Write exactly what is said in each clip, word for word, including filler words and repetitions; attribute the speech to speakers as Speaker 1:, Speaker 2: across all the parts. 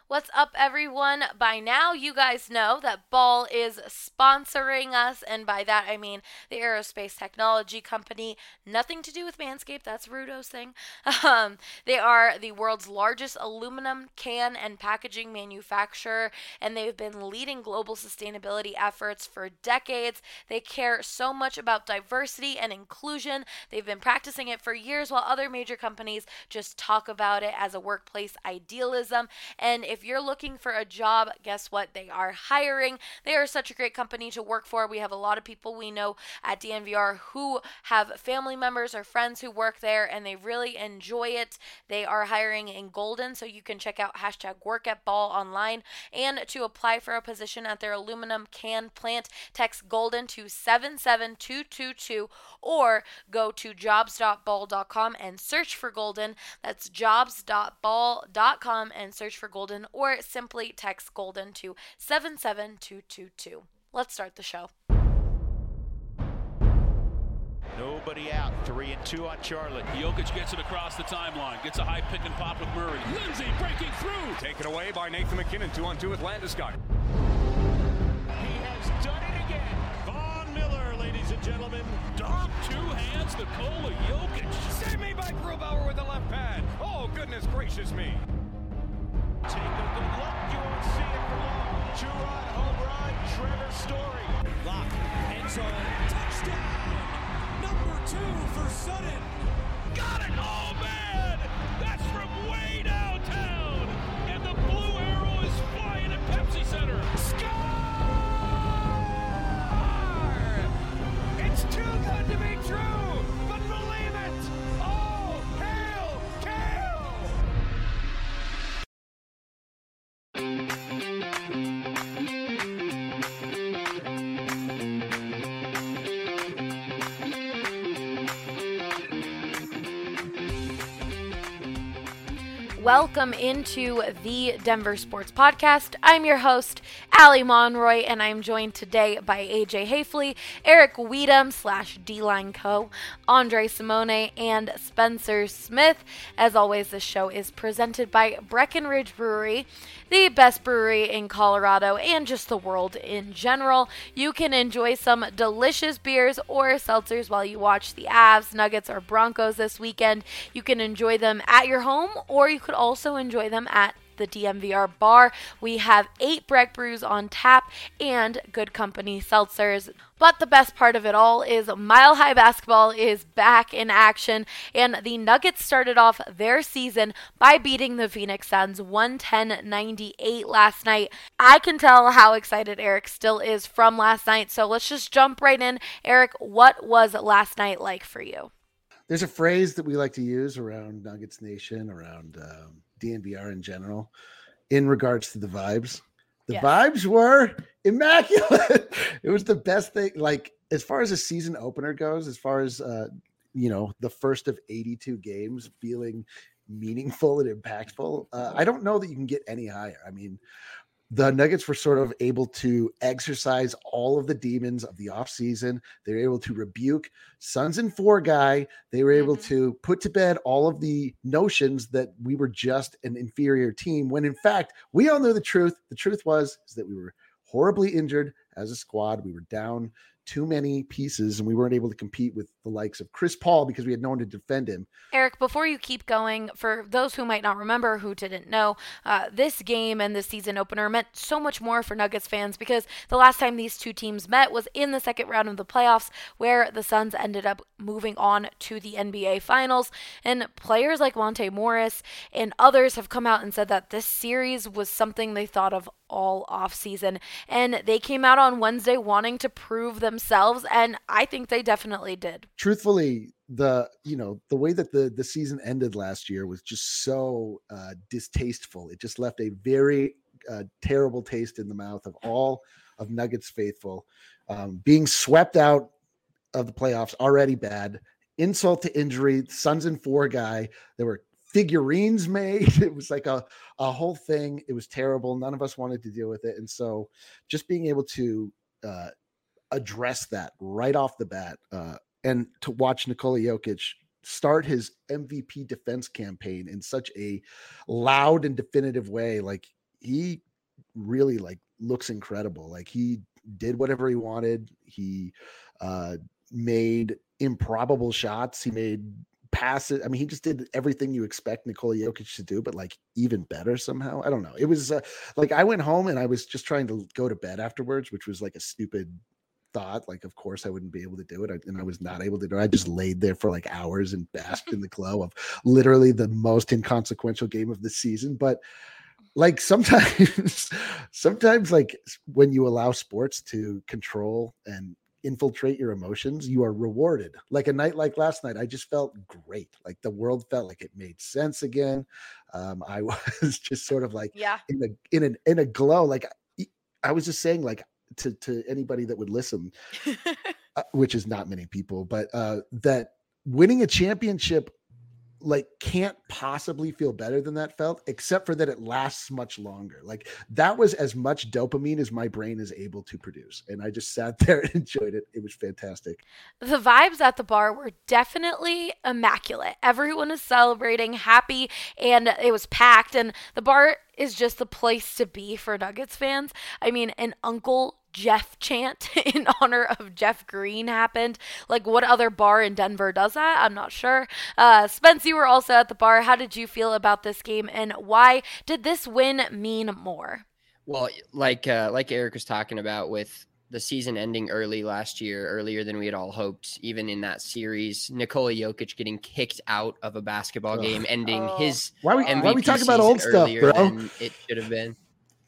Speaker 1: What's up, everyone? By now, you guys know that Ball is sponsoring us, and by that I mean the aerospace technology company. Nothing to do with Manscaped, that's Rudo's thing. Um, they are the world's largest aluminum can and packaging manufacturer, and they've been leading global sustainability efforts for decades. They care so much about diversity and inclusion. They've been practicing it for years, while other major companies just talk about it as a workplace idealism. And if you're looking for a job, guess what? They are hiring. They are such a great company to work for. We have a lot of people we know at D N V R who have family members or friends who work there, and they really enjoy it. They are hiring in Golden, so you can check out hashtag work at ball online. And to apply for a position at their aluminum can plant, text Golden to seven seven two two two or go to jobs dot ball dot com and search for Golden. That's jobs dot ball dot com and search for Golden, or simply text Golden to seven seven two two two. Let's start the show.
Speaker 2: Nobody out. Three and two on Charlotte.
Speaker 3: Jokic gets it across the timeline. Gets a high pick and pop with Murray. Lindsay breaking through.
Speaker 4: Taken away by Nathan McKinnon. Two on two with Landeskog.
Speaker 2: He has done it again.
Speaker 3: Von Miller, ladies and gentlemen. Dom, two hands, Nikola Jokic.
Speaker 4: Save me by Grubauer with the left pad. Oh, goodness gracious me.
Speaker 2: Take a good look. You won't see it for long. Two-run home run. Trevor Story.
Speaker 5: Lock. End zone. Touchdown. Number two for Sutton.
Speaker 3: Got it. Oh, man. That's from way downtown. And the blue arrow is flying at Pepsi Center.
Speaker 2: Score! It's too good to be true, but believe it. Oh, hail, Kale!
Speaker 1: Welcome into the Denver Sports Podcast. I'm your host, Allie Monroy, and I'm joined today by A J Hafley, Eric Weedham slash D-Line Co., Andre Simone, and Spencer Smith. As always, this show is presented by Breckenridge Brewery, the best brewery in Colorado and just the world in general. You can enjoy some delicious beers or seltzers while you watch the Avs, Nuggets, or Broncos this weekend. You can enjoy them at your home, or you could also enjoy them at the D M V R bar. We have eight Breck brews on tap and Good Company seltzers. But the best part of it all is Mile High Basketball is back in action, and the Nuggets started off their season by beating the Phoenix Suns one ten ninety-eight last night. I can tell how excited Eric still is from last night, so let's just jump right in. Eric, what was last night like for you?
Speaker 6: There's a phrase that we like to use around Nuggets Nation, around um, D N V R in general, in regards to the vibes. The
Speaker 1: Yes.
Speaker 6: vibes were immaculate. It was the best thing. Like, as far as a season opener goes, as far as, uh, you know, the first of eighty-two games feeling meaningful and impactful, uh, I don't know that you can get any higher. I mean, the Nuggets were sort of able to exercise all of the demons of the offseason. They were able to rebuke Suns and four guy. They were able
Speaker 1: Mhm.
Speaker 6: to put to bed all of the notions that we were just an inferior team, when in fact, we all knew the truth. The truth was is that we were horribly injured as a squad. We were down too many pieces, and we weren't able to compete with the likes of Chris Paul because we had no one to defend him.
Speaker 1: Eric, before you keep going, for those who might not remember, who didn't know, uh, this game and this season opener meant so much more for Nuggets fans because the last time these two teams met was in the second round of the playoffs, where the Suns ended up moving on to the N B A Finals. And players like Monte Morris and others have come out and said that this series was something they thought of all offseason. And they came out on Wednesday wanting to prove themselves, and I think they definitely did.
Speaker 6: Truthfully, the you know the way that the the season ended last year was just so uh distasteful. It just left a very uh, terrible taste in the mouth of all of Nuggets faithful. Um, being swept out of the playoffs, already bad. Insult to injury. Suns and four guy. There were figurines made. It was like a a whole thing. It was terrible. None of us wanted to deal with it, and so just being able to uh, address that right off the bat. Uh, And to watch Nikola Jokic start his M V P defense campaign in such a loud and definitive way, like he really like looks incredible. Like he did whatever he wanted. He uh, made improbable shots. He made passes. I mean, he just did everything you expect Nikola Jokic to do, but like even better somehow. I don't know. It was uh, like I went home and I was just trying to go to bed afterwards, which was like a stupid thought. Like, of course I wouldn't be able to do it. I, and I was not able to do it. I just laid there for like hours and basked in the glow of literally the most inconsequential game of the season. But like sometimes, sometimes like when you allow sports to control and infiltrate your emotions, you are rewarded. Like a night like last night, I just felt great. Like the world felt like it made sense again. Um, I was just sort of like
Speaker 1: yeah.
Speaker 6: in a in an in a glow. Like I was just saying, like to to anybody that would listen, uh, which is not many people, but uh, that winning a championship like can't possibly feel better than that felt, except for that it lasts much longer. Like that was as much dopamine as my brain is able to produce. And I just sat there and enjoyed it. It was fantastic.
Speaker 1: The vibes at the bar were definitely immaculate. Everyone is celebrating, happy, and it was packed. And the bar is just the place to be for Nuggets fans. I mean, an Uncle Jeff chant in honor of Jeff Green happened. Like, what other bar in Denver does that? I'm not sure. Uh, Spence, you were also at the bar. How did you feel about this game, and why did this win mean more?
Speaker 7: Well, like uh, like Eric was talking about with the season ending early last year, earlier than we had all hoped, even in that series, Nikola Jokic getting kicked out of a basketball game, ending
Speaker 1: oh.
Speaker 7: his
Speaker 6: why are we,
Speaker 7: M V P
Speaker 6: why are we talking about old stuff, bro?
Speaker 7: Than it should have been.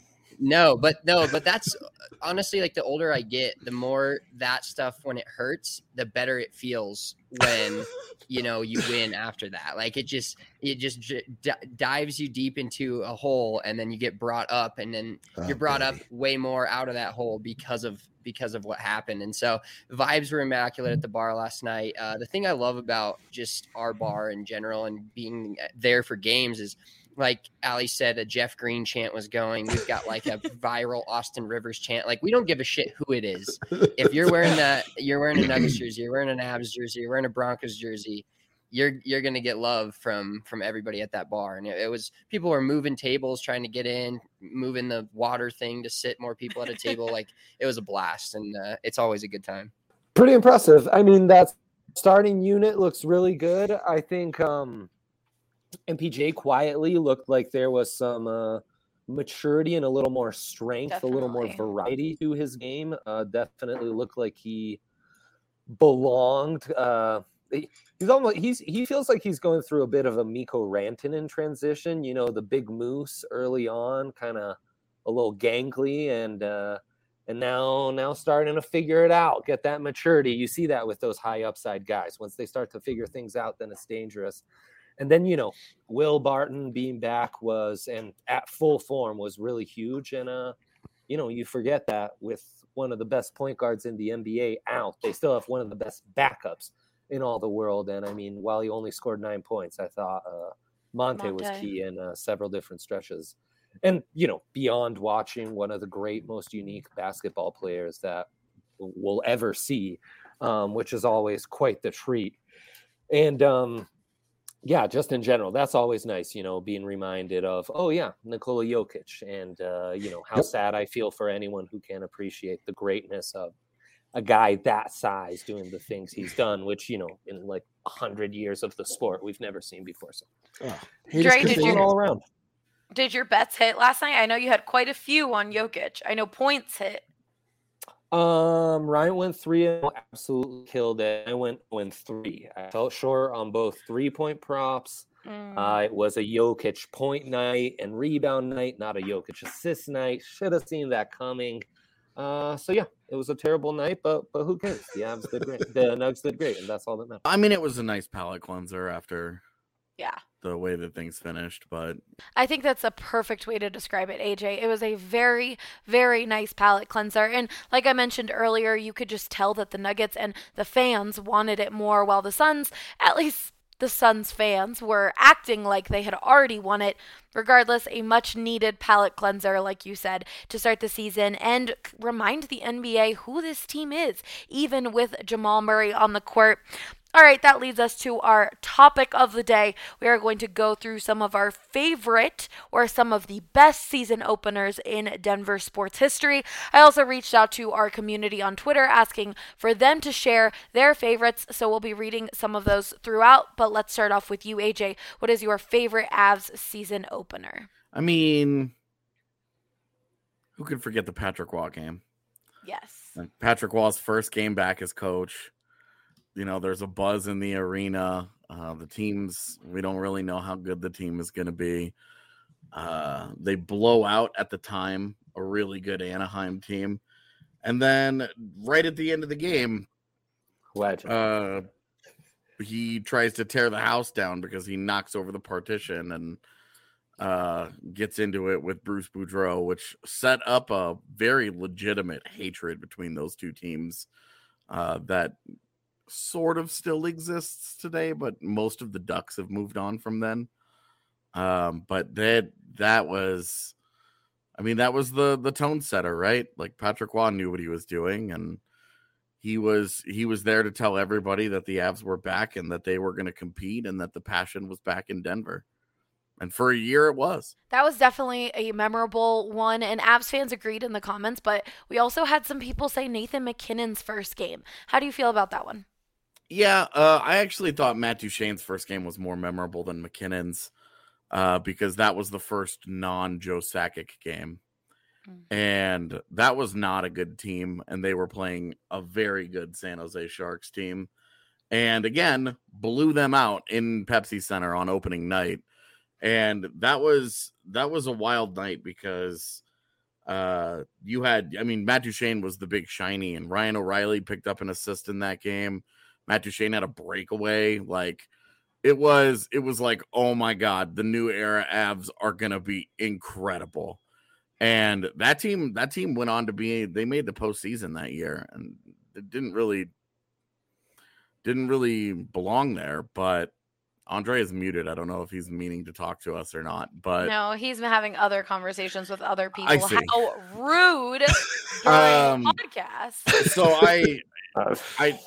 Speaker 7: No, but no, but that's honestly like the older I get, the more that stuff when it hurts, the better it feels when, you know, you win after that. Like it just, it just d- dives you deep into a hole and then you get brought up and then oh, you're brought baby. up way more out of that hole because of, because of what happened. And so vibes were immaculate at the bar last night. Uh, the thing I love about just our bar in general and being there for games is, like Ali said, a Jeff Green chant was going. We've got like a viral Austin Rivers chant. Like we don't give a shit who it is. If you're wearing that, you're wearing a Nuggets jersey, you're wearing an Avs jersey, you're wearing a Broncos jersey, you're you're gonna get love from from everybody at that bar. And it, it was people were moving tables, trying to get in, moving the water thing to sit more people at a table. Like it was a blast, and uh, it's always a good time.
Speaker 8: Pretty impressive. I mean, that starting unit looks really good. I think. Um... M P J quietly looked like there was some uh, maturity and a little more strength, definitely. a little more variety to his game. Uh, definitely looked like he belonged. Uh, he's almost he's he feels like he's going through a bit of a Mikko Rantanen transition. You know, the big moose early on, kind of a little gangly, and uh, and now now starting to figure it out, get that maturity. You see that with those high upside guys. Once they start to figure things out, then it's dangerous. And then, you know, Will Barton being back was, and at full form was really huge. And, uh, you know, you forget that with one of the best point guards in the N B A out, they still have one of the best backups in all the world. And, I mean, while he only scored nine points, I thought uh, Monte, Monte was key in uh, several different stretches. And, you know, beyond watching one of the great, most unique basketball players that we'll ever see, um, which is always quite the treat. And, um, yeah, just in general, that's always nice, you know, being reminded of, oh, yeah, Nikola Jokic. And, uh, you know, how yep. sad I feel for anyone who can appreciate the greatness of a guy that size doing the things he's done, which, you know, in like one hundred years of the sport, we've never seen before. So,
Speaker 6: oh,
Speaker 1: Dre, did, your,
Speaker 8: all around.
Speaker 1: did your bets hit last night? I know you had quite a few on Jokic. I know points hit.
Speaker 8: Um, Ryan went three and absolutely killed it. I went went three. I felt short on both three point props. Mm. Uh, it was a Jokic point night and rebound night, not a Jokic assist night. Should have seen that coming. Uh, so yeah, it was a terrible night, but but who cares? The Avs did great. The Nugs did great, and that's all that matters.
Speaker 9: I mean, it was a nice palate cleanser after.
Speaker 1: Yeah.
Speaker 9: The way that things finished, but
Speaker 1: I think that's a perfect way to describe it, A J. It was a very, very nice palate cleanser. And like I mentioned earlier, you could just tell that the Nuggets and the fans wanted it more, while the Suns, at least the Suns fans, were acting like they had already won it. Regardless, a much needed palate cleanser, like you said, to start the season and remind the N B A who this team is, even with Jamal Murray on the court. All right, that leads us to our topic of the day. We are going to go through some of our favorite or some of the best season openers in Denver sports history. I also reached out to our community on Twitter asking for them to share their favorites, so we'll be reading some of those throughout. But let's start off with you, A J. What is your favorite Avs season opener?
Speaker 9: I mean, who could forget the Patrick Waugh game?
Speaker 1: Yes.
Speaker 9: Patrick Waugh's first game back as coach. You know, there's a buzz in the arena. Uh, the teams, we don't really know how good the team is going to be. Uh, they blow out at the time a really good Anaheim team. And then right at the end of the game,
Speaker 8: Legend.
Speaker 9: uh, he tries to tear the house down because he knocks over the partition and uh, gets into it with Bruce Boudreau, which set up a very legitimate hatred between those two teams uh, that sort of still exists today, but most of the Ducks have moved on from then. Um, but that that was, I mean, that was the the tone setter, right? Like Patrick Waugh knew what he was doing, and he was he was there to tell everybody that the Avs were back and that they were going to compete and that the passion was back in Denver. And for a year, it was.
Speaker 1: That was definitely a memorable one, and Avs fans agreed in the comments, but we also had some people say Nathan MacKinnon's first game. How do you feel about that one?
Speaker 9: Yeah, uh, I actually thought Matt Duchene's first game was more memorable than MacKinnon's uh, because that was the first non-Joe Sakic game. Mm-hmm. And that was not a good team, and they were playing a very good San Jose Sharks team. And again, blew them out in Pepsi Center on opening night. And that was that was a wild night because uh, you had, I mean, Matt Duchene was the big shiny, and Ryan O'Reilly picked up an assist in that game. Matt Duchene had a breakaway. Like it was, it was like, oh my God, the new era Avs are gonna be incredible. And that team, that team went on to be, they made the postseason that year, and it didn't really, didn't really belong there. But Andre is muted. I don't know if he's meaning to talk to us or not. But
Speaker 1: no, he's been having other conversations with other people.
Speaker 9: I see.
Speaker 1: How rude during
Speaker 9: um,
Speaker 1: the podcast.
Speaker 9: So I,
Speaker 8: Uh,
Speaker 9: I.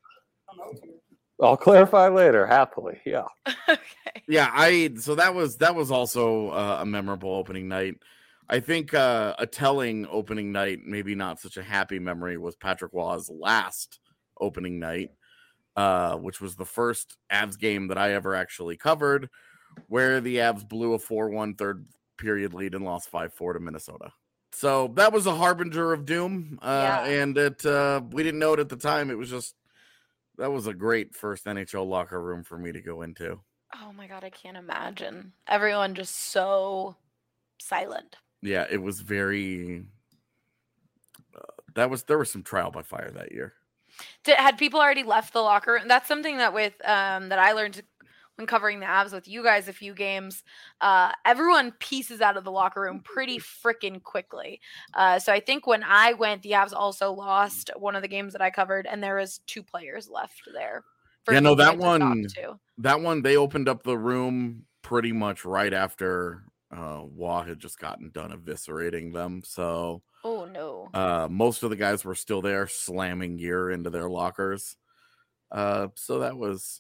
Speaker 8: I'll clarify later, happily. Yeah.
Speaker 1: Okay.
Speaker 9: Yeah, I so that was that was also uh, a memorable opening night. I think uh, a telling opening night, maybe not such a happy memory, was Patrick Waugh's last opening night, uh, which was the first Avs game that I ever actually covered, where the Avs blew a four one third period lead and lost five four to Minnesota. So that was a harbinger of doom, uh,
Speaker 1: Yeah.
Speaker 9: and it uh, we didn't know it at the time. It was just that was a great first N H L locker room for me to go into.
Speaker 1: Oh my God, I can't imagine. Everyone just so silent.
Speaker 9: Yeah, it was very. Uh, that was there was some trial by fire that year.
Speaker 1: Did, had people already left the locker room? That's something that with um that I learned when covering the Avs with you guys a few games. Uh, everyone pieces out of the locker room pretty freaking quickly. Uh, so I think when I went, the Avs also lost one of the games that I covered, and there was two players left there.
Speaker 9: Yeah, no,
Speaker 1: people
Speaker 9: that
Speaker 1: to talk
Speaker 9: one,
Speaker 1: to.
Speaker 9: that one, they opened up the room pretty much right after uh, Waugh had just gotten done eviscerating them. So,
Speaker 1: Oh no.
Speaker 9: uh, most of the guys were still there, slamming gear into their lockers. Uh, so that was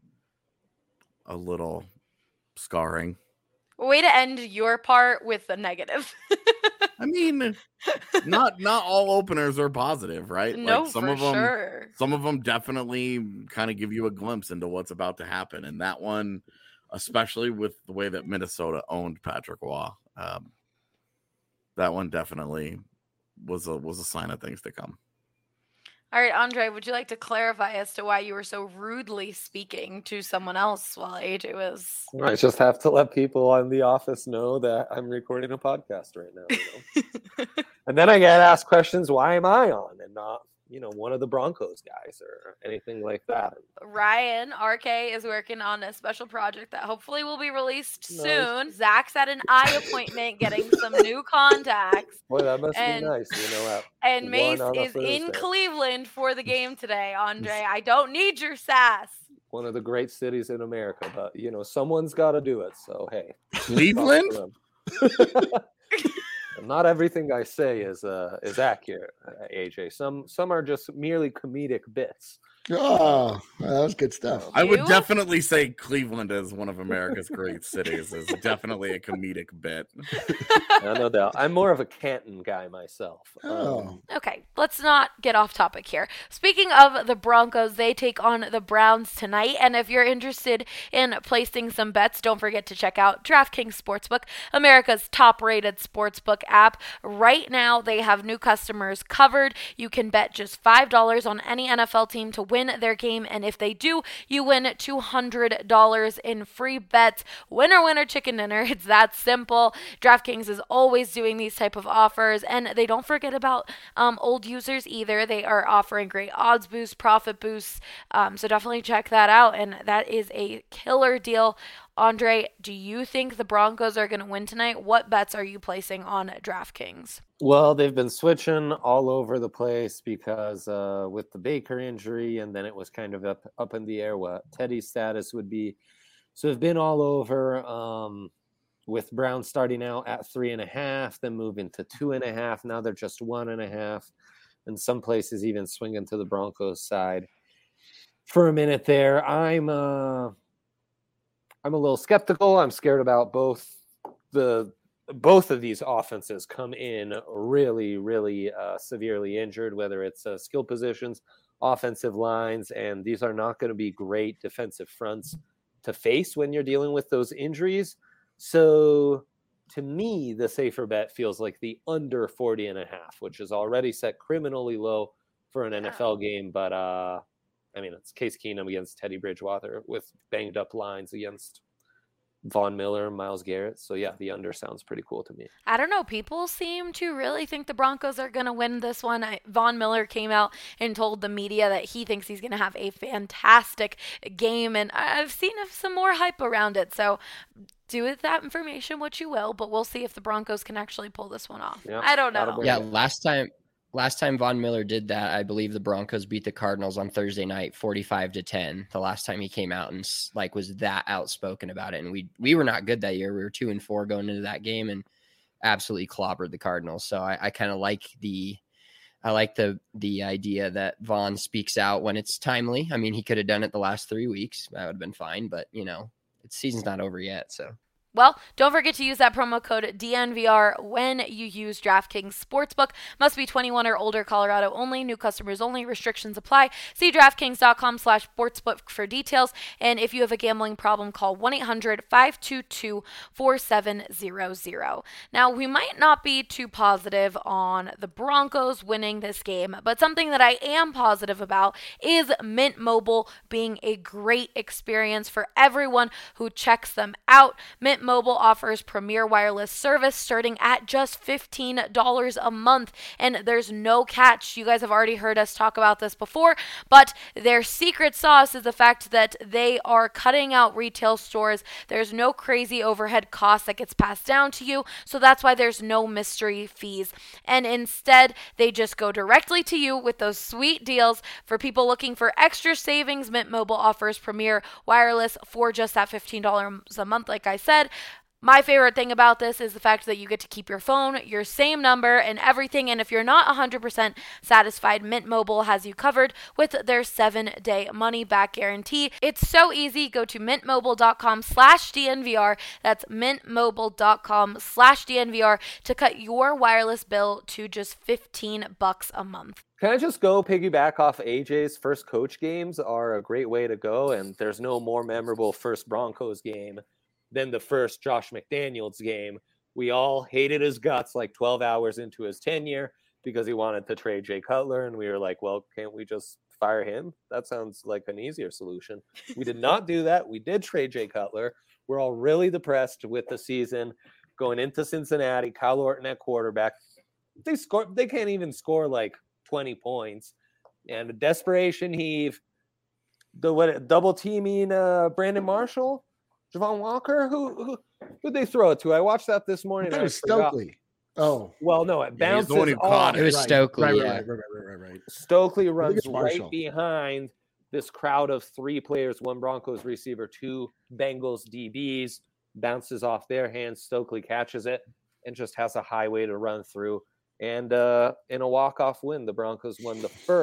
Speaker 9: a little scarring.
Speaker 1: Way to end your part with a negative.
Speaker 9: I mean, not not all openers are positive, right?
Speaker 1: No,
Speaker 9: like some
Speaker 1: for
Speaker 9: of them,
Speaker 1: sure.
Speaker 9: some of them definitely kind of give you a glimpse into what's about to happen, and that one, especially with the way that Minnesota owned Patrick Waugh, um, that one definitely was a was a sign of things to come.
Speaker 1: All right, Andre, would you like to clarify as to why you were so rudely speaking to someone else while A J was?
Speaker 8: I just have to let people in the office know that I'm recording a podcast right now. You know? And then I get asked questions, why am I on and not, you know, one of the Broncos guys or anything like that.
Speaker 1: Ryan, R K, is working on a special project that hopefully will be released
Speaker 8: Nice.
Speaker 1: soon. Zach's at an eye appointment getting some new contacts.
Speaker 8: Boy, that must
Speaker 1: And-
Speaker 8: be nice, you know. At
Speaker 1: And
Speaker 8: one
Speaker 1: Mace
Speaker 8: on a
Speaker 1: is in
Speaker 8: Thursday.
Speaker 1: Cleveland for the game today, Andre. I don't need your sass.
Speaker 8: one of the great cities in America, but you know, someone's got to do it. So hey,
Speaker 9: Cleveland?
Speaker 8: not everything I say is uh, is accurate, uh, A J. Some some are just merely comedic bits.
Speaker 6: Oh, that was good stuff.
Speaker 9: I would
Speaker 1: You?
Speaker 9: definitely say Cleveland is one of America's great cities. Is definitely a comedic bit.
Speaker 8: No, no doubt. I'm more of a Canton guy myself.
Speaker 6: Oh.
Speaker 8: Um,
Speaker 1: Okay, let's not get off topic here. Speaking of the Broncos, they take on the Browns tonight. And if you're interested in placing some bets, don't forget to check out DraftKings Sportsbook, America's top-rated sportsbook app. Right now, they have new customers covered. You can bet just five dollars on any N F L team to win their game. And if they do, you win two hundred dollars in free bets. Winner, winner, chicken dinner. It's that simple. DraftKings is always doing these type of offers. And they don't forget about um, old users either. They are offering great odds boosts, profit boosts. Um, so definitely check that out. And that is a killer deal. Andre, do you think the Broncos are going to win tonight? What bets are you placing on DraftKings?
Speaker 8: Well, they've been switching all over the place because uh, with the Baker injury, and then it was kind of up, up in the air what Teddy's status would be. So they've been all over um, with Brown starting out at three and a half, then moving to two and a half. Now they're just one and a half. And some places even swinging to the Broncos side. For a minute there, I'm uh, I'm a little skeptical. I'm scared about both the both of these offenses come in really, really uh, severely injured, whether it's uh, skill positions, offensive lines, and these are not going to be great defensive fronts to face when you're dealing with those injuries. So to me, the safer bet feels like the under forty and a half, which is already set criminally low for an N F L game. But uh, I mean, it's Case Keenum against Teddy Bridgewater with banged up lines against Von Miller, Myles Garrett. So yeah, the under sounds pretty cool to me.
Speaker 1: I don't know. People seem to really think the Broncos are going to win this one. I, Von Miller came out and told the media that he thinks he's going to have a fantastic game. And I've seen some more hype around it. So do with that information what you will, but we'll see if the Broncos can actually pull this one off.
Speaker 8: Yeah,
Speaker 1: I don't know.
Speaker 7: Yeah, last time last time Von Miller did that, I believe the Broncos beat the Cardinals on Thursday night forty-five to ten. The last time he came out and like was that outspoken about it. And we we were not good that year. We were two and four going into that game and absolutely clobbered the Cardinals. So I, I kind of like the I like the the idea that Von speaks out when it's timely. I mean, he could have done it the last three weeks. That would have been fine, but you know, it's season's not over yet, so.
Speaker 1: Well, don't forget to use that promo code D N V R when you use DraftKings Sportsbook. Must be twenty-one or older, Colorado only, new customers only, restrictions apply. See DraftKings.com slash sportsbook for details. And if you have a gambling problem, call one eight hundred five two two four seven zero zero. Now, we might not be too positive on the Broncos winning this game, but something that I am positive about is Mint Mobile being a great experience for everyone who checks them out. Mint Mobile offers premier wireless service starting at just fifteen dollars a month, and there's no catch. You guys have already heard us talk about this before, but their secret sauce is the fact that they are cutting out retail stores. There's no crazy overhead cost that gets passed down to you, so that's why there's no mystery fees, and instead they just go directly to you with those sweet deals. For people looking for extra savings, Mint Mobile offers premier wireless for just that fifteen dollars a month, like I said. My favorite thing about this is the fact that you get to keep your phone, your same number, and everything. And if you're not one hundred percent satisfied, Mint Mobile has you covered with their seven-day money-back guarantee. It's so easy. Go to mintmobile.com slash DNVR. That's mintmobile.com slash DNVR to cut your wireless bill to just fifteen bucks a month.
Speaker 8: Can I just go piggyback off A J's first coach games are a great way to go, and there's no more memorable first Broncos game than the first Josh McDaniels game. We all hated his guts like twelve hours into his tenure because he wanted to trade Jay Cutler, and we were like, well, can't we just fire him? That sounds like an easier solution. We did not do that. We did trade Jay Cutler. We're all really depressed with the season going into Cincinnati. Kyle Orton at quarterback. They score. They can't even score like twenty points, and a desperation heave. The what? Double teaming uh, Brandon Marshall, Javon Walker. Who who who'd they throw it to? I watched that this morning.
Speaker 6: That
Speaker 8: I
Speaker 6: was
Speaker 8: forgot.
Speaker 6: Stokely. Oh,
Speaker 8: well, no, it
Speaker 9: Yeah, he's
Speaker 8: bounces
Speaker 9: the one who
Speaker 8: off.
Speaker 9: caught
Speaker 7: It was
Speaker 6: right,
Speaker 7: Stokely,
Speaker 6: Right,
Speaker 7: yeah.
Speaker 6: right, right, right, right, right.
Speaker 8: Stokely
Speaker 6: I think
Speaker 8: runs
Speaker 6: it's Marshall.
Speaker 8: right behind this crowd of three players, one Broncos receiver, two Bengals D Bs, bounces off their hands. Stokely catches it and just has a highway to run through. And uh, in a walk-off win, the Broncos won the first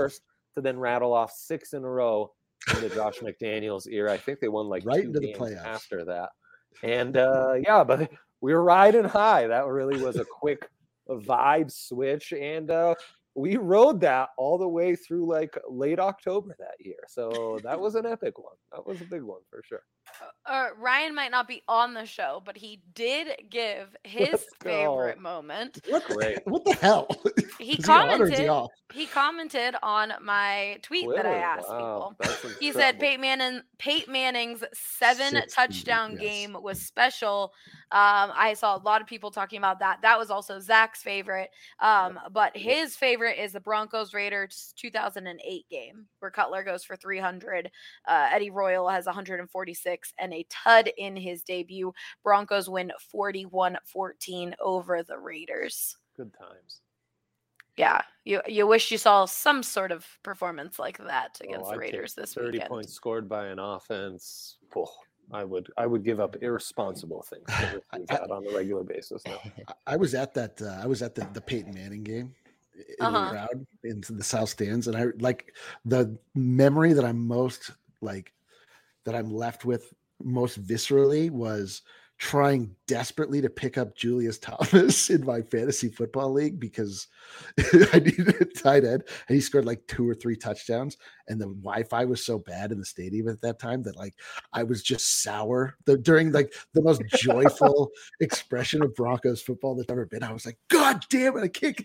Speaker 8: to then rattle off six in a row in the Josh McDaniels era. I think they won like
Speaker 6: Right
Speaker 8: two
Speaker 6: into the
Speaker 8: games
Speaker 6: playoffs.
Speaker 8: after that. And uh, yeah, but we were riding high. That really was a quick vibe switch. And uh, we rode that all the way through like late October that year. So that was an epic one. That was a big one for sure.
Speaker 1: Uh, Ryan might not be on the show, but he did give his
Speaker 8: Let's
Speaker 1: favorite
Speaker 8: go.
Speaker 1: moment.
Speaker 6: What the,
Speaker 8: Great.
Speaker 6: what the hell?
Speaker 1: He
Speaker 6: Is he on or is
Speaker 1: commented.
Speaker 6: he off?
Speaker 1: He commented on my tweet that I
Speaker 8: Twitter,
Speaker 1: asked
Speaker 8: wow,
Speaker 1: people.
Speaker 8: that's
Speaker 1: He said
Speaker 8: incredible.
Speaker 1: Peyton, Manning, Peyton Manning's seven
Speaker 6: Six,
Speaker 1: touchdown
Speaker 6: yes.
Speaker 1: game was special. Um, I saw a lot of people talking about that. That was also Zach's favorite. Um, but his favorite is the Broncos Raiders two thousand eight game where Cutler goes for three hundred. Uh, Eddie Royal has one hundred forty-six and a tud in his debut. Broncos win forty-one fourteen over the Raiders.
Speaker 8: Good times.
Speaker 1: Yeah, you you wish you saw some sort of performance like that against
Speaker 8: Oh,
Speaker 1: the
Speaker 8: I'd take
Speaker 1: Raiders this
Speaker 8: thirty
Speaker 1: weekend.
Speaker 8: points scored by an offense. Oh, I would I would give up irresponsible things to receive that on a regular basis now.
Speaker 6: I- I was at that. Uh, I was at the, the Peyton Manning game in
Speaker 1: Uh-huh.
Speaker 6: the crowd into the South Stands, and I like the memory that I'm most like that I'm left with most viscerally was trying desperately to pick up Julius Thomas in my fantasy football league because I needed a tight end, and he scored like two or three touchdowns, and the Wi-Fi was so bad in the stadium at that time that like I was just sour the, during like the most joyful expression of Broncos football that's ever been. I was like, God damn it, I kicked.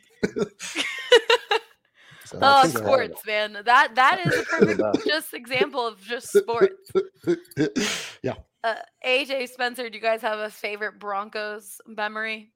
Speaker 6: So
Speaker 1: Oh,
Speaker 6: that's, uh,
Speaker 1: sports, man. That that is a perfect just example of just sports.
Speaker 6: yeah.
Speaker 1: Uh, A J Spencer, do you guys have a favorite Broncos memory?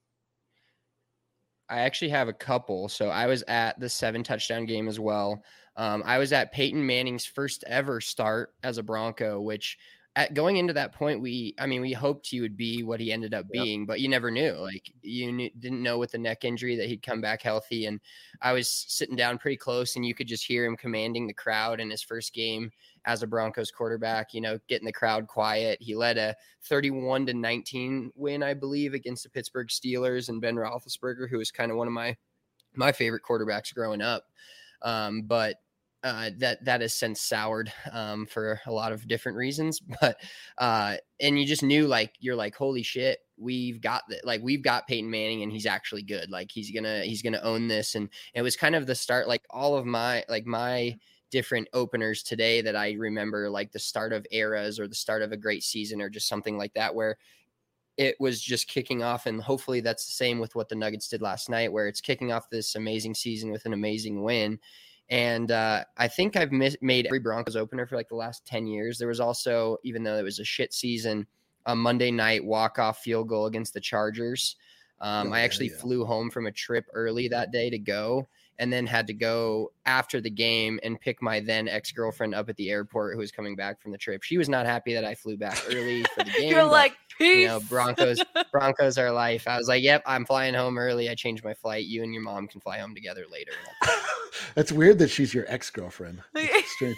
Speaker 7: I actually have a couple. So I was at the seven touchdown game as well. Um, I was at Peyton Manning's first ever start as a Bronco, which at going into that point, we, I mean, we hoped he would be what he ended up being, yep. but you never knew. Like you knew, didn't know with the neck injury that he'd come back healthy. And I was sitting down pretty close, and you could just hear him commanding the crowd in his first game as a Broncos quarterback, you know, getting the crowd quiet. He led a thirty-one to nineteen win, I believe, against the Pittsburgh Steelers and Ben Roethlisberger, who was kind of one of my, my favorite quarterbacks growing up. Um, but uh, that, that has since soured um, for a lot of different reasons, but uh, and you just knew, like, you're like, holy shit, we've got that. Like, we've got Peyton Manning, and he's actually good. Like he's gonna, he's gonna own this. And it was kind of the start, like all of my, like my, different openers today that I remember, like the start of eras or the start of a great season or just something like that, where it was just kicking off. And hopefully that's the same with what the Nuggets did last night, where it's kicking off this amazing season with an amazing win. And uh, I think I've mis- made every Broncos opener for like the last ten years. There was also, even though it was a shit season, a Monday night walk-off field goal against the Chargers. Um,
Speaker 6: Oh,
Speaker 7: I actually
Speaker 6: yeah, yeah.
Speaker 7: flew home from a trip early that day to go, and then had to go after the game and pick my then ex-girlfriend up at the airport who was coming back from the trip. She was not happy that I flew back early for the game.
Speaker 1: You're
Speaker 7: but,
Speaker 1: like, peace.
Speaker 7: you know, Broncos, Broncos are life. I was like, yep, I'm flying home early. I changed my flight. You and your mom can fly home together later.
Speaker 6: That's weird that she's your ex-girlfriend. It's strange.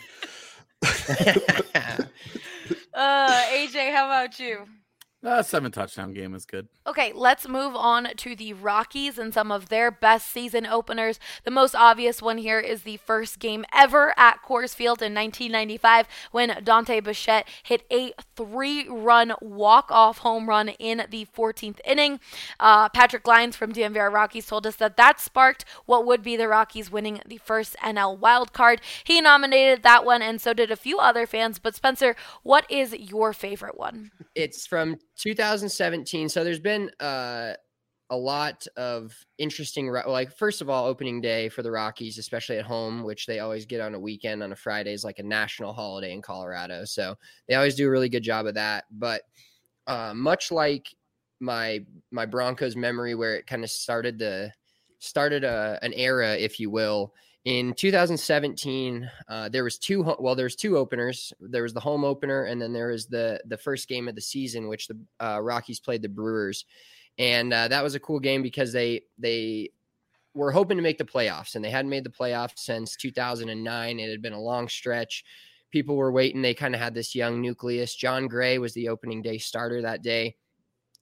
Speaker 1: uh, A J, how about you?
Speaker 9: Uh, seven touchdown game is good.
Speaker 1: Okay, let's move on to the Rockies and some of their best season openers. The most obvious one here is the first game ever at Coors Field in nineteen ninety-five when Dante Bichette hit a three-run walk-off home run in the fourteenth inning. Uh, Patrick Lyons from D M V R Rockies told us that that sparked what would be the Rockies winning the first N L wild card. He nominated that one, and so did a few other fans. But Spencer, what is your favorite one?
Speaker 7: It's from two thousand seventeen. So there's been uh, a lot of interesting, like, first of all, opening day for the Rockies, especially at home, which they always get on a weekend on a Friday, is like a national holiday in Colorado. So they always do a really good job of that. But uh, much like my my Broncos memory, where it kind of started the started a, an era, if you will. In two thousand seventeen, uh, there was two. Well, there's two openers. There was the home opener, and then there was the the first game of the season, which the uh, Rockies played the Brewers, and uh, that was a cool game because they they were hoping to make the playoffs, and they hadn't made the playoffs since two thousand nine. It had been a long stretch. People were waiting. They kind of had this young nucleus. John Gray was the opening day starter that day.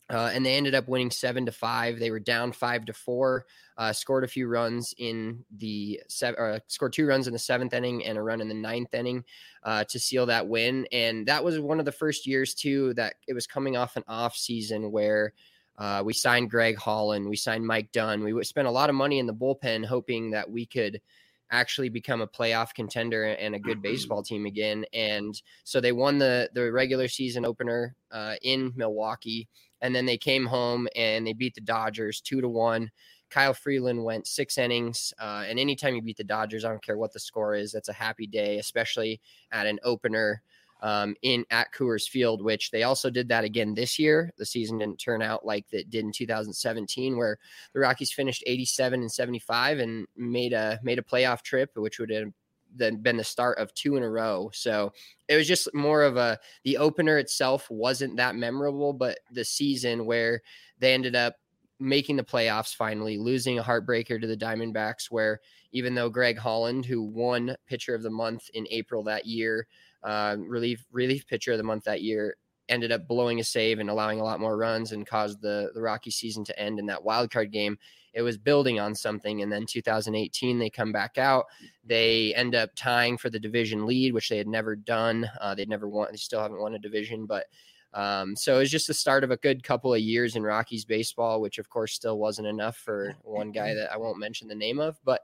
Speaker 7: Uh, and they ended up winning seven to five. They were down five to four. Uh, scored a few runs in the seven. Uh, scored two runs in the seventh inning and a run in the ninth inning uh, to seal that win. And that was one of the first years too that it was coming off an off season where uh, we signed Greg Holland, we signed Mike Dunn. We spent a lot of money in the bullpen hoping that we could actually become a playoff contender and a good baseball team again. And so they won the the regular season opener uh, in Milwaukee. And then they came home and they beat the Dodgers two to one. Kyle Freeland went six innings. Uh, and anytime you beat the Dodgers, I don't care what the score is, that's a happy day, especially at an opener um, in at Coors Field, which they also did that again this year. The season didn't turn out like it did in two thousand seventeen, where the Rockies finished eighty-seven and seventy-five and made a made a playoff trip, which would have then been the start of two in a row. So it was just more of a, the opener itself wasn't that memorable, but the season where they ended up making the playoffs, finally losing a heartbreaker to the Diamondbacks, where even though Greg Holland, who won pitcher of the month in April that year, uh, relief, relief pitcher of the month that year, ended up blowing a save and allowing a lot more runs and caused the, the Rocky season to end in that wild card game. It was building on something. And then two thousand eighteen, they come back out. They end up tying for the division lead, which they had never done. Uh, they'd never won. They still haven't won a division, but um, so it was just the start of a good couple of years in Rockies baseball, which of course still wasn't enough for one guy that I won't mention the name of, but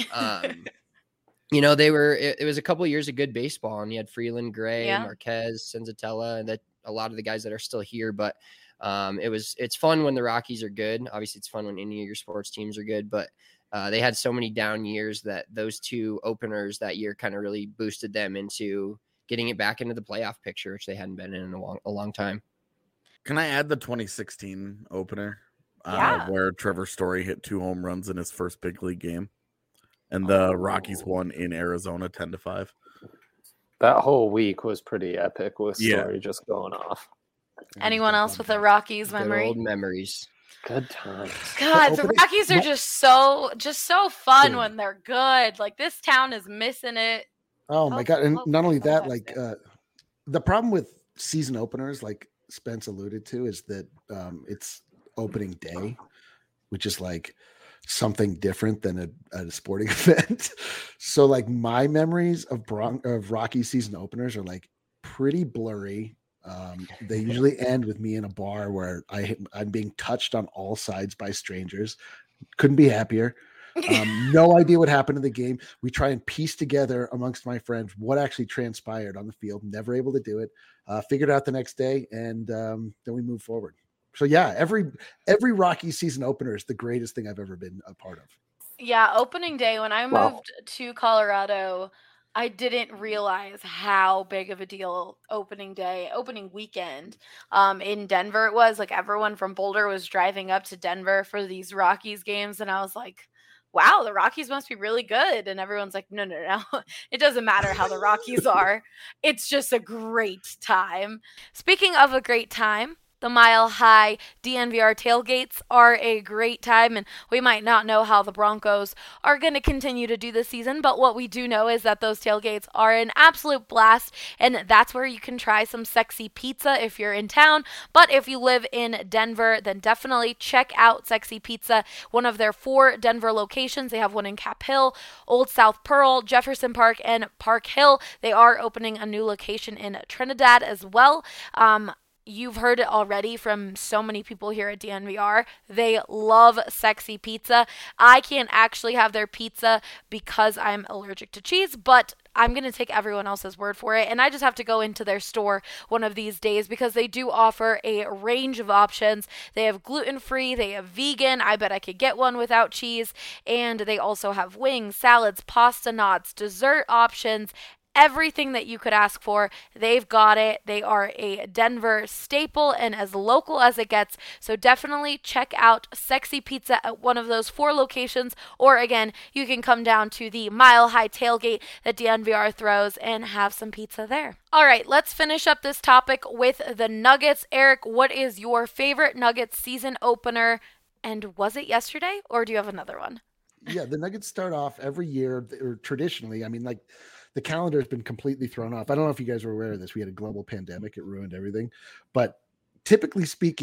Speaker 7: um, you know, they were, it, it was a couple of years of good baseball, and you had Freeland, Gray, yeah. Marquez, Senzatella, and that a lot of the guys that are still here, but Um, it was, it's fun when the Rockies are good. Obviously it's fun when any of your sports teams are good, but uh, they had so many down years that those two openers that year kind of really boosted them into getting it back into the playoff picture, which they hadn't been in a long, a long time.
Speaker 9: Can I add the twenty sixteen opener
Speaker 1: yeah.
Speaker 9: uh, where Trevor Story hit two home runs in his first big league game and the oh. Rockies won in Arizona ten to five.
Speaker 8: That whole week was pretty epic with Story
Speaker 9: yeah.
Speaker 8: just going off.
Speaker 1: Anyone else with a Rockies memory?
Speaker 7: Good old memories.
Speaker 8: Good times.
Speaker 1: God, the Rockies are just so just so fun yeah. when they're good. Like this town is missing it.
Speaker 6: Oh my god! And not only that, like uh, the problem with season openers, like Spence alluded to, is that um, it's opening day, which is like something different than a, a sporting event. So, like my memories of Bron- of Rocky season openers are like pretty blurry. Um, they usually end with me in a bar where I, I'm being touched on all sides by strangers. Couldn't be happier. Um, no idea what happened in the game. We try and piece together amongst my friends what actually transpired on the field. Never able to do it. Uh, figured out the next day, and um, then we move forward. So yeah, every every Rocky season opener is the greatest thing I've ever been a part of.
Speaker 1: Yeah, opening day when I moved wow. to Colorado, I didn't realize how big of a deal opening day, opening weekend um, in Denver it was. Like everyone from Boulder was driving up to Denver for these Rockies games. And I was like, wow, the Rockies must be really good. And everyone's like, no, no, no. It doesn't matter how the Rockies are. It's just a great time. Speaking of a great time, the Mile High D N V R tailgates are a great time, and we might not know how the Broncos are going to continue to do this season, but what we do know is that those tailgates are an absolute blast, and that's where you can try some sexy pizza if you're in town. But if you live in Denver, then definitely check out Sexy Pizza, one of their four Denver locations. They have one in Cap Hill, Old South Pearl, Jefferson Park, and Park Hill. They are opening a new location in Trinidad as well. Um, You've heard it already from so many people here at D N V R. They love Sexy Pizza. I can't actually have their pizza because I'm allergic to cheese, but I'm going to take everyone else's word for it, and I just have to go into their store one of these days because they do offer a range of options. They have gluten-free, they have vegan. I bet I could get one without cheese, and they also have wings, salads, pasta knots, dessert options, everything that you could ask for, they've got it. They are a Denver staple and as local as it gets. So definitely check out Sexy Pizza at one of those four locations. Or again, you can come down to the Mile High tailgate that D N V R throws and have some pizza there. All right, let's finish up this topic with the Nuggets. Eric, what is your favorite Nuggets season opener? And was it yesterday, or do you have another one?
Speaker 6: Yeah, the Nuggets start off every year, or traditionally, I mean, like, the calendar has been completely thrown off. I don't know if you guys were aware of this. We had a global pandemic. It ruined everything. But typically speaking,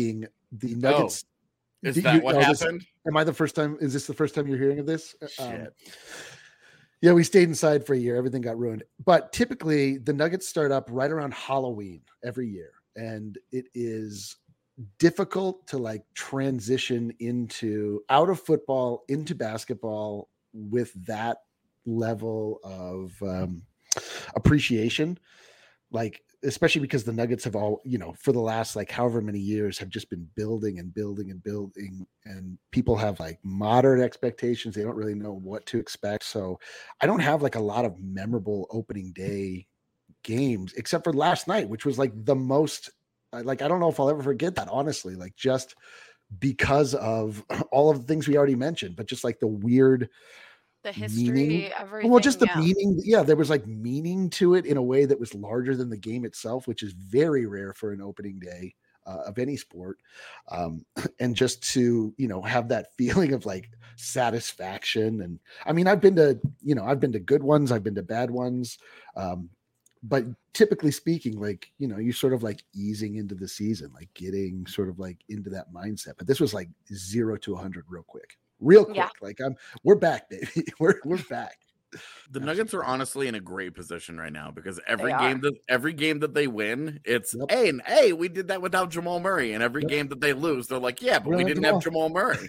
Speaker 6: the Nuggets.
Speaker 9: Oh, is
Speaker 6: the,
Speaker 9: that
Speaker 6: you,
Speaker 9: what
Speaker 6: oh,
Speaker 9: happened?
Speaker 6: This, am I the first time? Is this the first time you're hearing of this?
Speaker 9: Shit.
Speaker 6: Um, yeah, we stayed inside for a year. Everything got ruined. But typically, the Nuggets start up right around Halloween every year, and it is difficult to like transition into out of football into basketball with that level of um, appreciation. Like, especially because the Nuggets have all, you know, for the last like however many years have just been building and building and building, and people have like moderate expectations. They don't really know what to expect. So I don't have like a lot of memorable opening day games except for last night, which was like the most, like, I don't know if I'll ever forget that, honestly, like just because of all of the things we already mentioned, but just like the weird,
Speaker 1: the history,
Speaker 6: meaning.
Speaker 1: everything.
Speaker 6: Well, just the
Speaker 1: yeah.
Speaker 6: meaning. Yeah, there was like meaning to it in a way that was larger than the game itself, which is very rare for an opening day uh, of any sport. Um, and just to, you know, have that feeling of like satisfaction. And I mean, I've been to, you know, I've been to good ones, I've been to bad ones. Um, but typically speaking, like, you know, you're sort of like easing into the season, like getting sort of like into that mindset. But this was like zero to a hundred real quick. Real quick,
Speaker 1: Yeah.
Speaker 6: like I'm, we're back, baby. We're we're back.
Speaker 9: The Nuggets are honestly in a great position right now because every
Speaker 1: They
Speaker 9: game
Speaker 1: are.
Speaker 9: that every game that they win, it's
Speaker 6: Yep.
Speaker 9: hey and hey, we did that without Jamal Murray, and every
Speaker 6: Yep.
Speaker 9: game that they lose, they're like, yeah, but
Speaker 6: We
Speaker 9: we
Speaker 6: don't have
Speaker 9: didn't have Jamal Murray.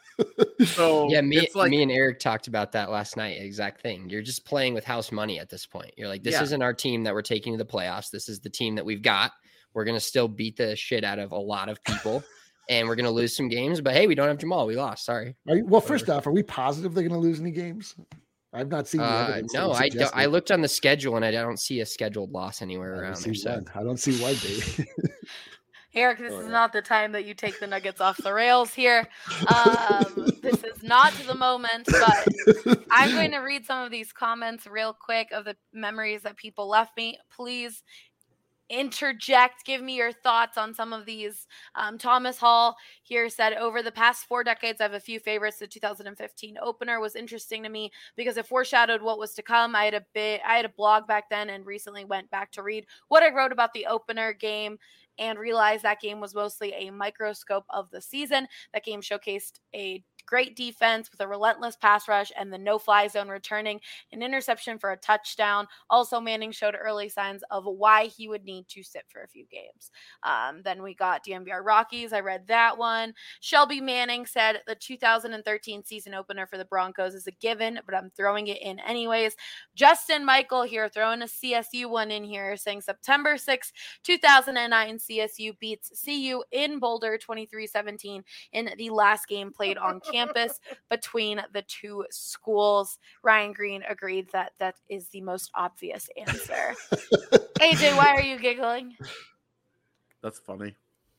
Speaker 9: So
Speaker 7: Yeah, me,
Speaker 9: it's like
Speaker 7: me and Eric talked about that last night. Exact thing. You're just playing with house money at this point. You're like, this
Speaker 9: Yeah.
Speaker 7: isn't our team that we're taking to the playoffs. This is the team that we've got. We're gonna still beat the shit out of a lot of people, and we're gonna lose some games. But hey, we don't have Jamal. We lost. Sorry.
Speaker 6: Are you, well, first off, are we positive they're going to lose any games? I've not seen the
Speaker 7: Uh,
Speaker 6: evidence. that
Speaker 7: no,
Speaker 6: would
Speaker 7: I
Speaker 6: suggest
Speaker 7: don't. I
Speaker 6: it.
Speaker 7: looked on the schedule, and I don't see a scheduled loss anywhere
Speaker 6: I don't
Speaker 7: around
Speaker 6: see
Speaker 7: there. So
Speaker 6: one. I don't see why, baby.
Speaker 1: Eric, this
Speaker 6: Oh,
Speaker 1: is
Speaker 6: yeah.
Speaker 1: not the time that you take the Nuggets off the rails here. Um, this is not the moment, but I'm going to read some of these comments real quick of the memories that people left me. Please interject, give me your thoughts on some of these. Um, Thomas Hall here said, over the past four decades, I have a few favorites. The two thousand fifteen opener was interesting to me because it foreshadowed what was to come. I had a bit, I had a blog back then and recently went back to read what I wrote about the opener game and realized that game was mostly a microscope of the season. That game showcased a great defense with a relentless pass rush and the no-fly zone returning an interception for a touchdown. Also, Manning showed early signs of why he would need to sit for a few games. Um, then we got D M V R Rockies. I read that one. Shelby Manning said the two thousand thirteen season opener for the Broncos is a given, but I'm throwing it in anyways. Justin Michael here throwing a C S U one in here, saying September sixth, two thousand nine, C S U beats C U in Boulder twenty-three seventeen in the last game played on campus between the two schools. Ryan Green agreed that that is the most obvious answer. A J, why are you giggling?
Speaker 9: that's funny.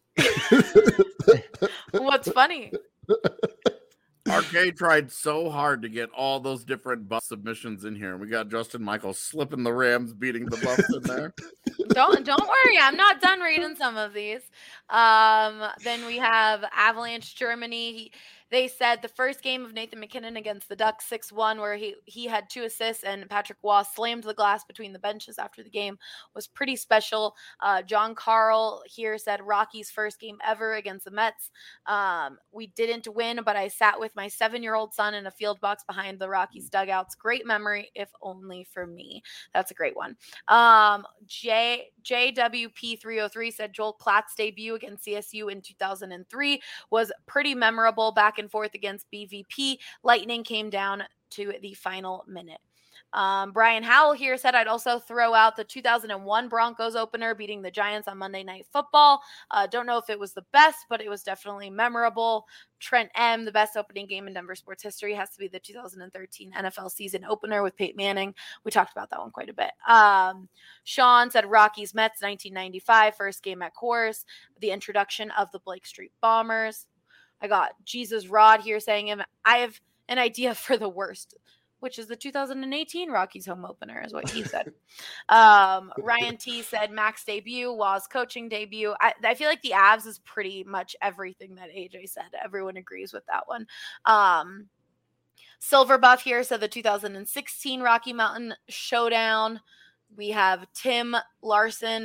Speaker 1: What's funny?
Speaker 9: Arcade tried so hard to get all those different Buff submissions in here. We got Justin Michael slipping the Rams, beating the Buffs in there.
Speaker 1: Don't don't worry, I'm not done reading some of these. Um, then we have Avalanche Germany. He, they said the first game of Nathan McKinnon against the Ducks six one, where he, he had two assists and Patrick Waugh slammed the glass between the benches after the game, was pretty special. Uh, John Carl here said Rocky's first game ever against the Mets. Um, we didn't win, but I sat with my seven-year-old son in a field box behind the Rockies dugouts. Great memory, if only for me. That's a great one. Um, J J W P three oh three said Joel Klatt's debut against C S U in two thousand three was pretty memorable. Back and forth against B V P. Lightning came down to the final minute. Um, Brian Howell here said I'd also throw out the two thousand one Broncos opener beating the Giants on Monday Night Football. Uh, don't know if it was the best, but it was definitely memorable. Trent M, the best opening game in Denver sports history, has to be the two thousand thirteen N F L season opener with Peyton Manning. We talked about that one quite a bit. Um, Sean said Rockies Mets nineteen ninety-five, first game at Coors, the introduction of the Blake Street Bombers. I got Jesus Rod here saying I have an idea for the worst, which is the two thousand eighteen Rockies home opener, is what he said. um, Ryan T said Mac's debut, Waugh's coaching debut. I, I feel like the Avs is pretty much everything that A J said. Everyone agrees with that one. Um, Silver Buff here said the two thousand sixteen Rocky Mountain Showdown. We have Tim Larson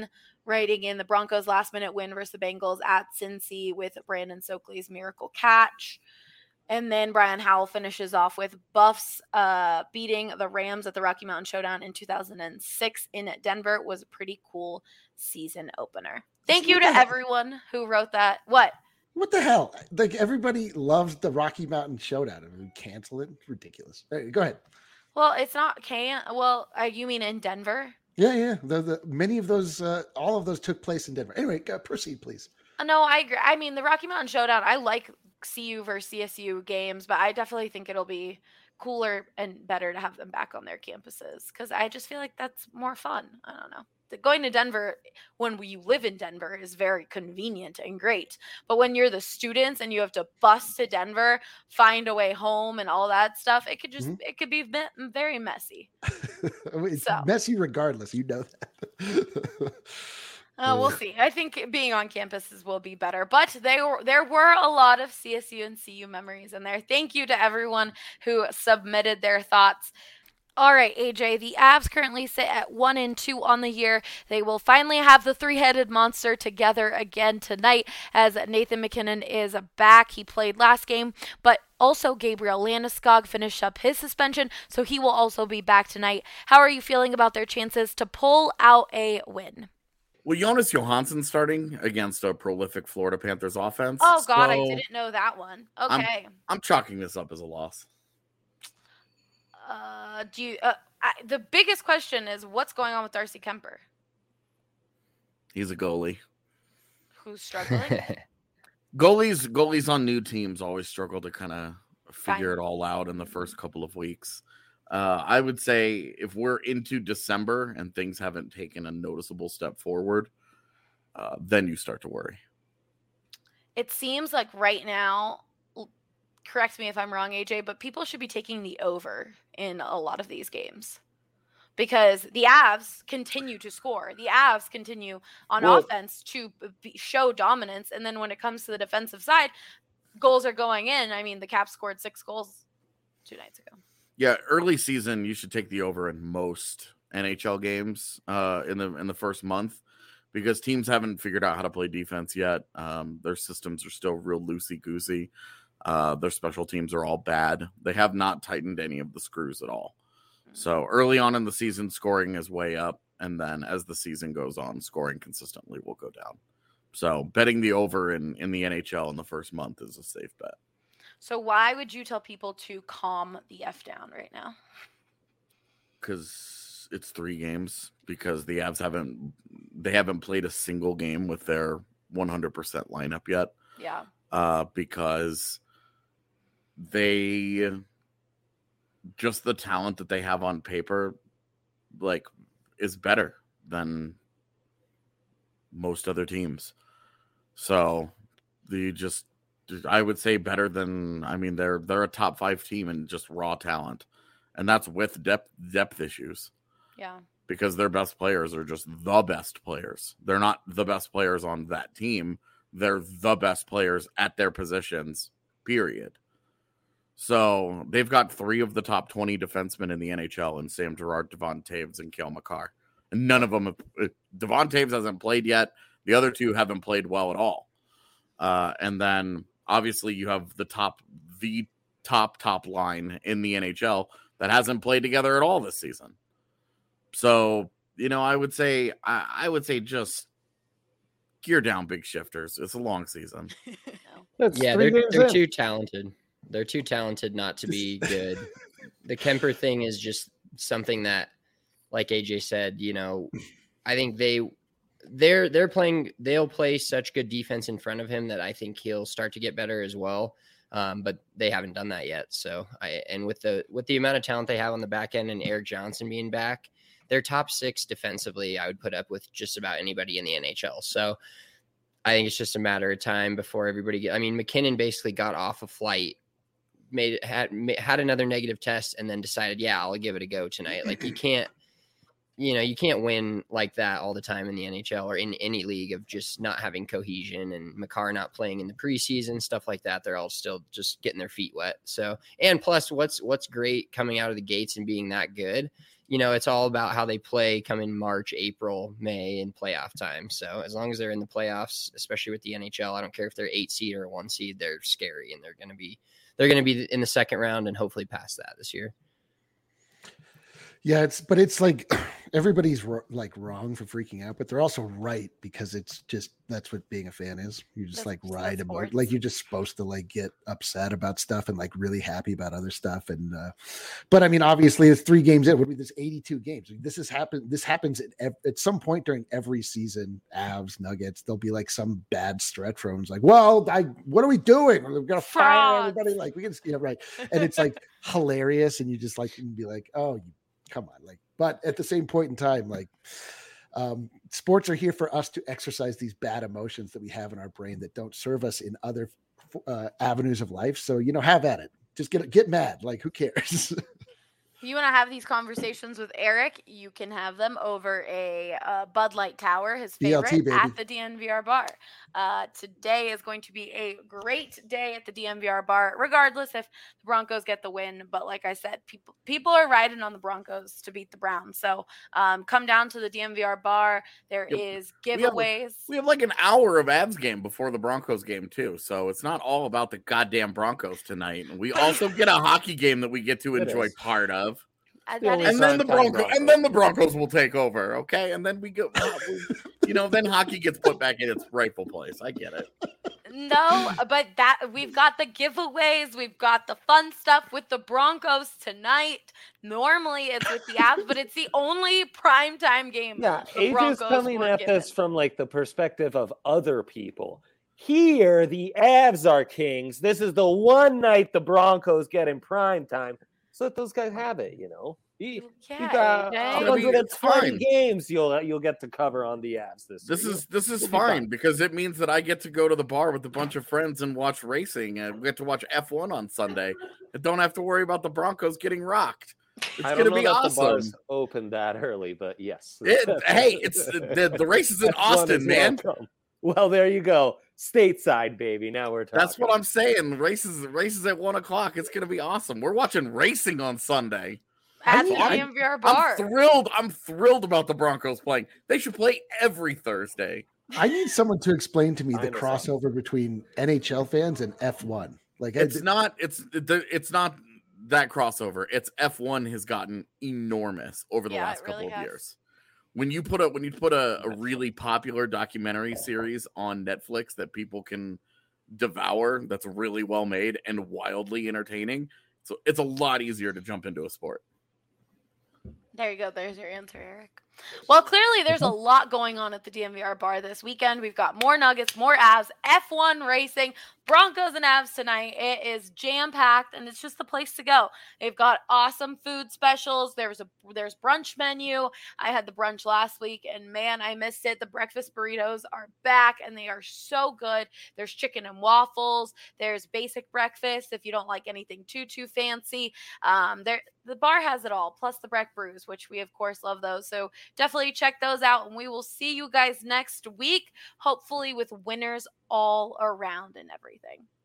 Speaker 1: writing in the Broncos last minute win versus the Bengals at Cincy with Brandon Stokely's miracle catch. And then Brian Howell finishes off with Buffs uh, beating the Rams at the Rocky Mountain Showdown in two thousand six in Denver. It was a pretty cool season opener. Thank you to everyone who wrote that. What?
Speaker 6: What the hell? Like, everybody loves the Rocky Mountain Showdown. And we cancel it? Ridiculous. Right, go ahead.
Speaker 1: Well, it's not can. Well, uh, you mean in Denver?
Speaker 6: Yeah, yeah. The, the many of those, uh, all of those took place in Denver. Anyway, uh, proceed, please.
Speaker 1: Uh, no, I agree. I mean, the Rocky Mountain Showdown, I like C U versus C S U games, but I definitely think it'll be cooler and better to have them back on their campuses because I just feel like that's more fun. I don't know. The, going to Denver when you live in Denver is very convenient and great, but when you're the students and you have to bus to Denver, find a way home, and all that stuff, it could just mm-hmm. it could be me- very messy.
Speaker 6: It's
Speaker 1: so.
Speaker 6: messy regardless. You know that.
Speaker 1: Uh, we'll see. I think being on campuses will be better, but they were, there were a lot of C S U and C U memories in there. Thank you to everyone who submitted their thoughts. All right, A J, the Avs currently sit at one and two on the year. They will finally have the three-headed monster together again tonight as Nathan MacKinnon is back. He played last game, but also Gabriel Landeskog finished up his suspension, so he will also be back tonight. How are you feeling about their chances to pull out a win?
Speaker 9: Well, Jonas Johansson starting against a prolific Florida Panthers offense.
Speaker 1: Oh, God,
Speaker 9: so
Speaker 1: I didn't know that one. Okay.
Speaker 9: I'm, I'm chalking this up as a loss.
Speaker 1: Uh, do you? Uh, I, the biggest question is what's going on with Darcy Kemper?
Speaker 9: He's a goalie.
Speaker 1: Who's struggling?
Speaker 9: goalies, goalies on new teams always struggle to kind of figure
Speaker 1: Fine.
Speaker 9: it all out in the first couple of weeks. Uh, I would say if we're into December and things haven't taken a noticeable step forward, uh, then you start to worry.
Speaker 1: It seems like right now, correct me if I'm wrong, A J, but people should be taking the over in a lot of these games because the Avs continue to score. The Avs continue on
Speaker 8: well,
Speaker 1: offense to be, show dominance. And then when it comes to the defensive side, goals are going in. I mean, the Caps scored six goals two nights ago.
Speaker 9: Yeah, early season, you should take the over in most N H L games uh, in the in the first month because teams haven't figured out how to play defense yet. Um, their systems are still real loosey-goosey. Uh, their special teams are all bad. They have not tightened any of the screws at all. So early on in the season, scoring is way up. And then as the season goes on, scoring consistently will go down. So betting the over in, in the N H L in the first month is a safe bet.
Speaker 1: So why would you tell people to calm the F down right now?
Speaker 9: Because it's three games. Because the Avs haven't they haven't played a single game with their one hundred percent lineup yet.
Speaker 1: Yeah.
Speaker 9: Uh, because they just the talent that they have on paper, like, is better than most other teams. So the just. I would say better than, I mean, they're they're a top five team in just raw talent. And that's with depth depth issues.
Speaker 1: Yeah.
Speaker 9: Because their best players are just the best players. They're not the best players on that team. They're the best players at their positions, period. So they've got three of the top twenty defensemen in the N H L in Sam Girard, Devon Taves, and Cale Makar. And none of them have, Devon Taves hasn't played yet. The other two haven't played well at all. Uh, and then obviously you have the top, the top, top line in the N H L that hasn't played together at all this season. So, you know, I would say, I, I would say just gear down, big shifters. It's a long season.
Speaker 8: That's
Speaker 7: yeah,
Speaker 8: three
Speaker 7: they're,
Speaker 8: games
Speaker 7: they're
Speaker 8: in.
Speaker 7: too talented. They're too talented not to be good. The Kemper thing is just something that, like A J said, you know, I think they, they're, they're playing, they'll play such good defense in front of him that I think he'll start to get better as well. Um, but they haven't done that yet. So I, and with the, with the amount of talent they have on the back end and Erik Johnson being back, their top six defensively, I would put up with just about anybody in the N H L. So I think it's just a matter of time before everybody get, I mean, MacKinnon basically got off a flight, made it, had, had another negative test and then decided, yeah, I'll give it a go tonight. Like you can't, you know, you can't win like that all the time in the N H L or in any league of just not having cohesion and Makar not playing in the preseason, stuff like that. They're all still just getting their feet wet. So, and plus what's, what's great coming out of the gates and being that good you know, it's all about how they play coming March, April, May, and playoff time. So as long as they're in the playoffs, especially with the N H L, I don't care if they're eight seed or one seed, they're scary, and they're going to be they're going to be in the second round and hopefully past that this year.
Speaker 6: Yeah, it's but it's like everybody's like wrong for freaking out, but they're also right because it's just that's what being a fan is. You just
Speaker 1: That's
Speaker 6: like
Speaker 1: just
Speaker 6: ride
Speaker 1: sports.
Speaker 6: about like you're just supposed to like get upset about stuff and like really happy about other stuff. And uh but I mean, obviously, it's three games in. It would be this eighty-two games. This has happened. This happens at, ev- at some point during every season. Avs, Nuggets. There'll be like some bad stretch from like, well, I what are we doing? We're gonna fire
Speaker 1: Frauds.
Speaker 6: everybody. Like we can, you know, right? And it's like hilarious, and you just like can be like, oh, you. Come on, like, but at the same point in time, like, um, sports are here for us to exercise these bad emotions that we have in our brain that don't serve us in other uh, avenues of life. So, you know, have at it. Just get get mad. Like, who cares?
Speaker 1: If you want to have these conversations with Eric, you can have them over a uh, Bud Light Tower, his
Speaker 6: B L
Speaker 1: favorite,
Speaker 6: T, baby.
Speaker 1: at the D N V R bar. Uh, today is going to be a great day at the D N V R bar, regardless if the Broncos get the win. But like I said, people people are riding on the Broncos to beat the Browns. So um, come down to the D N V R bar. There
Speaker 9: Yep.
Speaker 1: is
Speaker 9: We have,
Speaker 1: giveaways.
Speaker 9: we have like an hour of Avs game before the Broncos game too, so it's not all about the goddamn Broncos tonight. We also get a hockey game that we get to
Speaker 8: It
Speaker 9: enjoy
Speaker 8: is.
Speaker 9: part of.
Speaker 1: Uh,
Speaker 8: The
Speaker 1: that
Speaker 8: only
Speaker 1: is-
Speaker 9: And then the
Speaker 8: Primetime
Speaker 9: Broncos,
Speaker 8: Broncos.
Speaker 9: and then the Broncos will take over, okay? And then we go, you know, then hockey gets put back in its rightful place. I get it.
Speaker 1: No, but that we've got the giveaways, we've got the fun stuff with the Broncos tonight. Normally it's with the Avs, but it's the only primetime game.
Speaker 8: Yeah,
Speaker 1: the
Speaker 8: A J's
Speaker 1: Broncos
Speaker 8: coming
Speaker 1: were
Speaker 8: at
Speaker 1: given.
Speaker 8: this from like the perspective of other people. Here, the Avs are kings. This is the one night the Broncos get in prime time. So that those guys have it, you know. You, you
Speaker 1: Yeah,
Speaker 8: got
Speaker 1: A J.
Speaker 9: gonna be-
Speaker 8: one hundred twenty
Speaker 9: fine.
Speaker 8: games you'll you'll get to cover on the Avs this
Speaker 9: This
Speaker 8: year.
Speaker 9: is this is
Speaker 8: It'll be
Speaker 9: fine
Speaker 8: fun.
Speaker 9: because it means that I get to go to the bar with a bunch of friends and watch racing, and we get to watch F one on Sunday. I don't have to worry about the Broncos getting rocked. It's
Speaker 8: I
Speaker 9: gonna
Speaker 8: don't know
Speaker 9: be
Speaker 8: that
Speaker 9: awesome.
Speaker 8: the bars open that early, but yes.
Speaker 9: It, hey, it's the, the race is in
Speaker 8: F one is
Speaker 9: Austin, man.
Speaker 8: welcome. Well, there you go. Stateside, baby. Now we're talking.
Speaker 9: That's what I'm saying. Races races at one o'clock. It's gonna be awesome. We're watching racing on Sunday.
Speaker 1: At
Speaker 6: I
Speaker 1: the
Speaker 6: mean, I-
Speaker 1: D N V R bar.
Speaker 9: I'm thrilled. I'm thrilled about the Broncos playing. They should play every Thursday.
Speaker 6: I need someone to explain to me
Speaker 8: I
Speaker 6: the
Speaker 8: understand.
Speaker 6: crossover between N H L fans and F one. Like, I-
Speaker 9: It's not. It's the. It's not that crossover. It's F one has gotten enormous over the
Speaker 1: Yeah,
Speaker 9: last
Speaker 1: it really
Speaker 9: couple of
Speaker 1: has.
Speaker 9: years. When you put a when you put a, a really popular documentary series on Netflix that people can devour, that's really well made and wildly entertaining, so it's a lot easier to jump into a sport.
Speaker 1: There you go. There's your answer, Eric. Well, clearly there's a lot going on at the D N V R bar this weekend. We've got more Nuggets, more Avs, F one racing, Broncos and Avs tonight. It is jam-packed, and it's just the place to go. They've got awesome food specials. There's a there's brunch menu. I had the brunch last week, and man, I missed it. The breakfast burritos are back, and they are so good. There's chicken and waffles. There's basic breakfast if you don't like anything too, too fancy. Um, there the bar has it all, plus the Breck brews, which we, of course, love those. So definitely check those out, and we will see you guys next week, hopefully with winners all around and everything.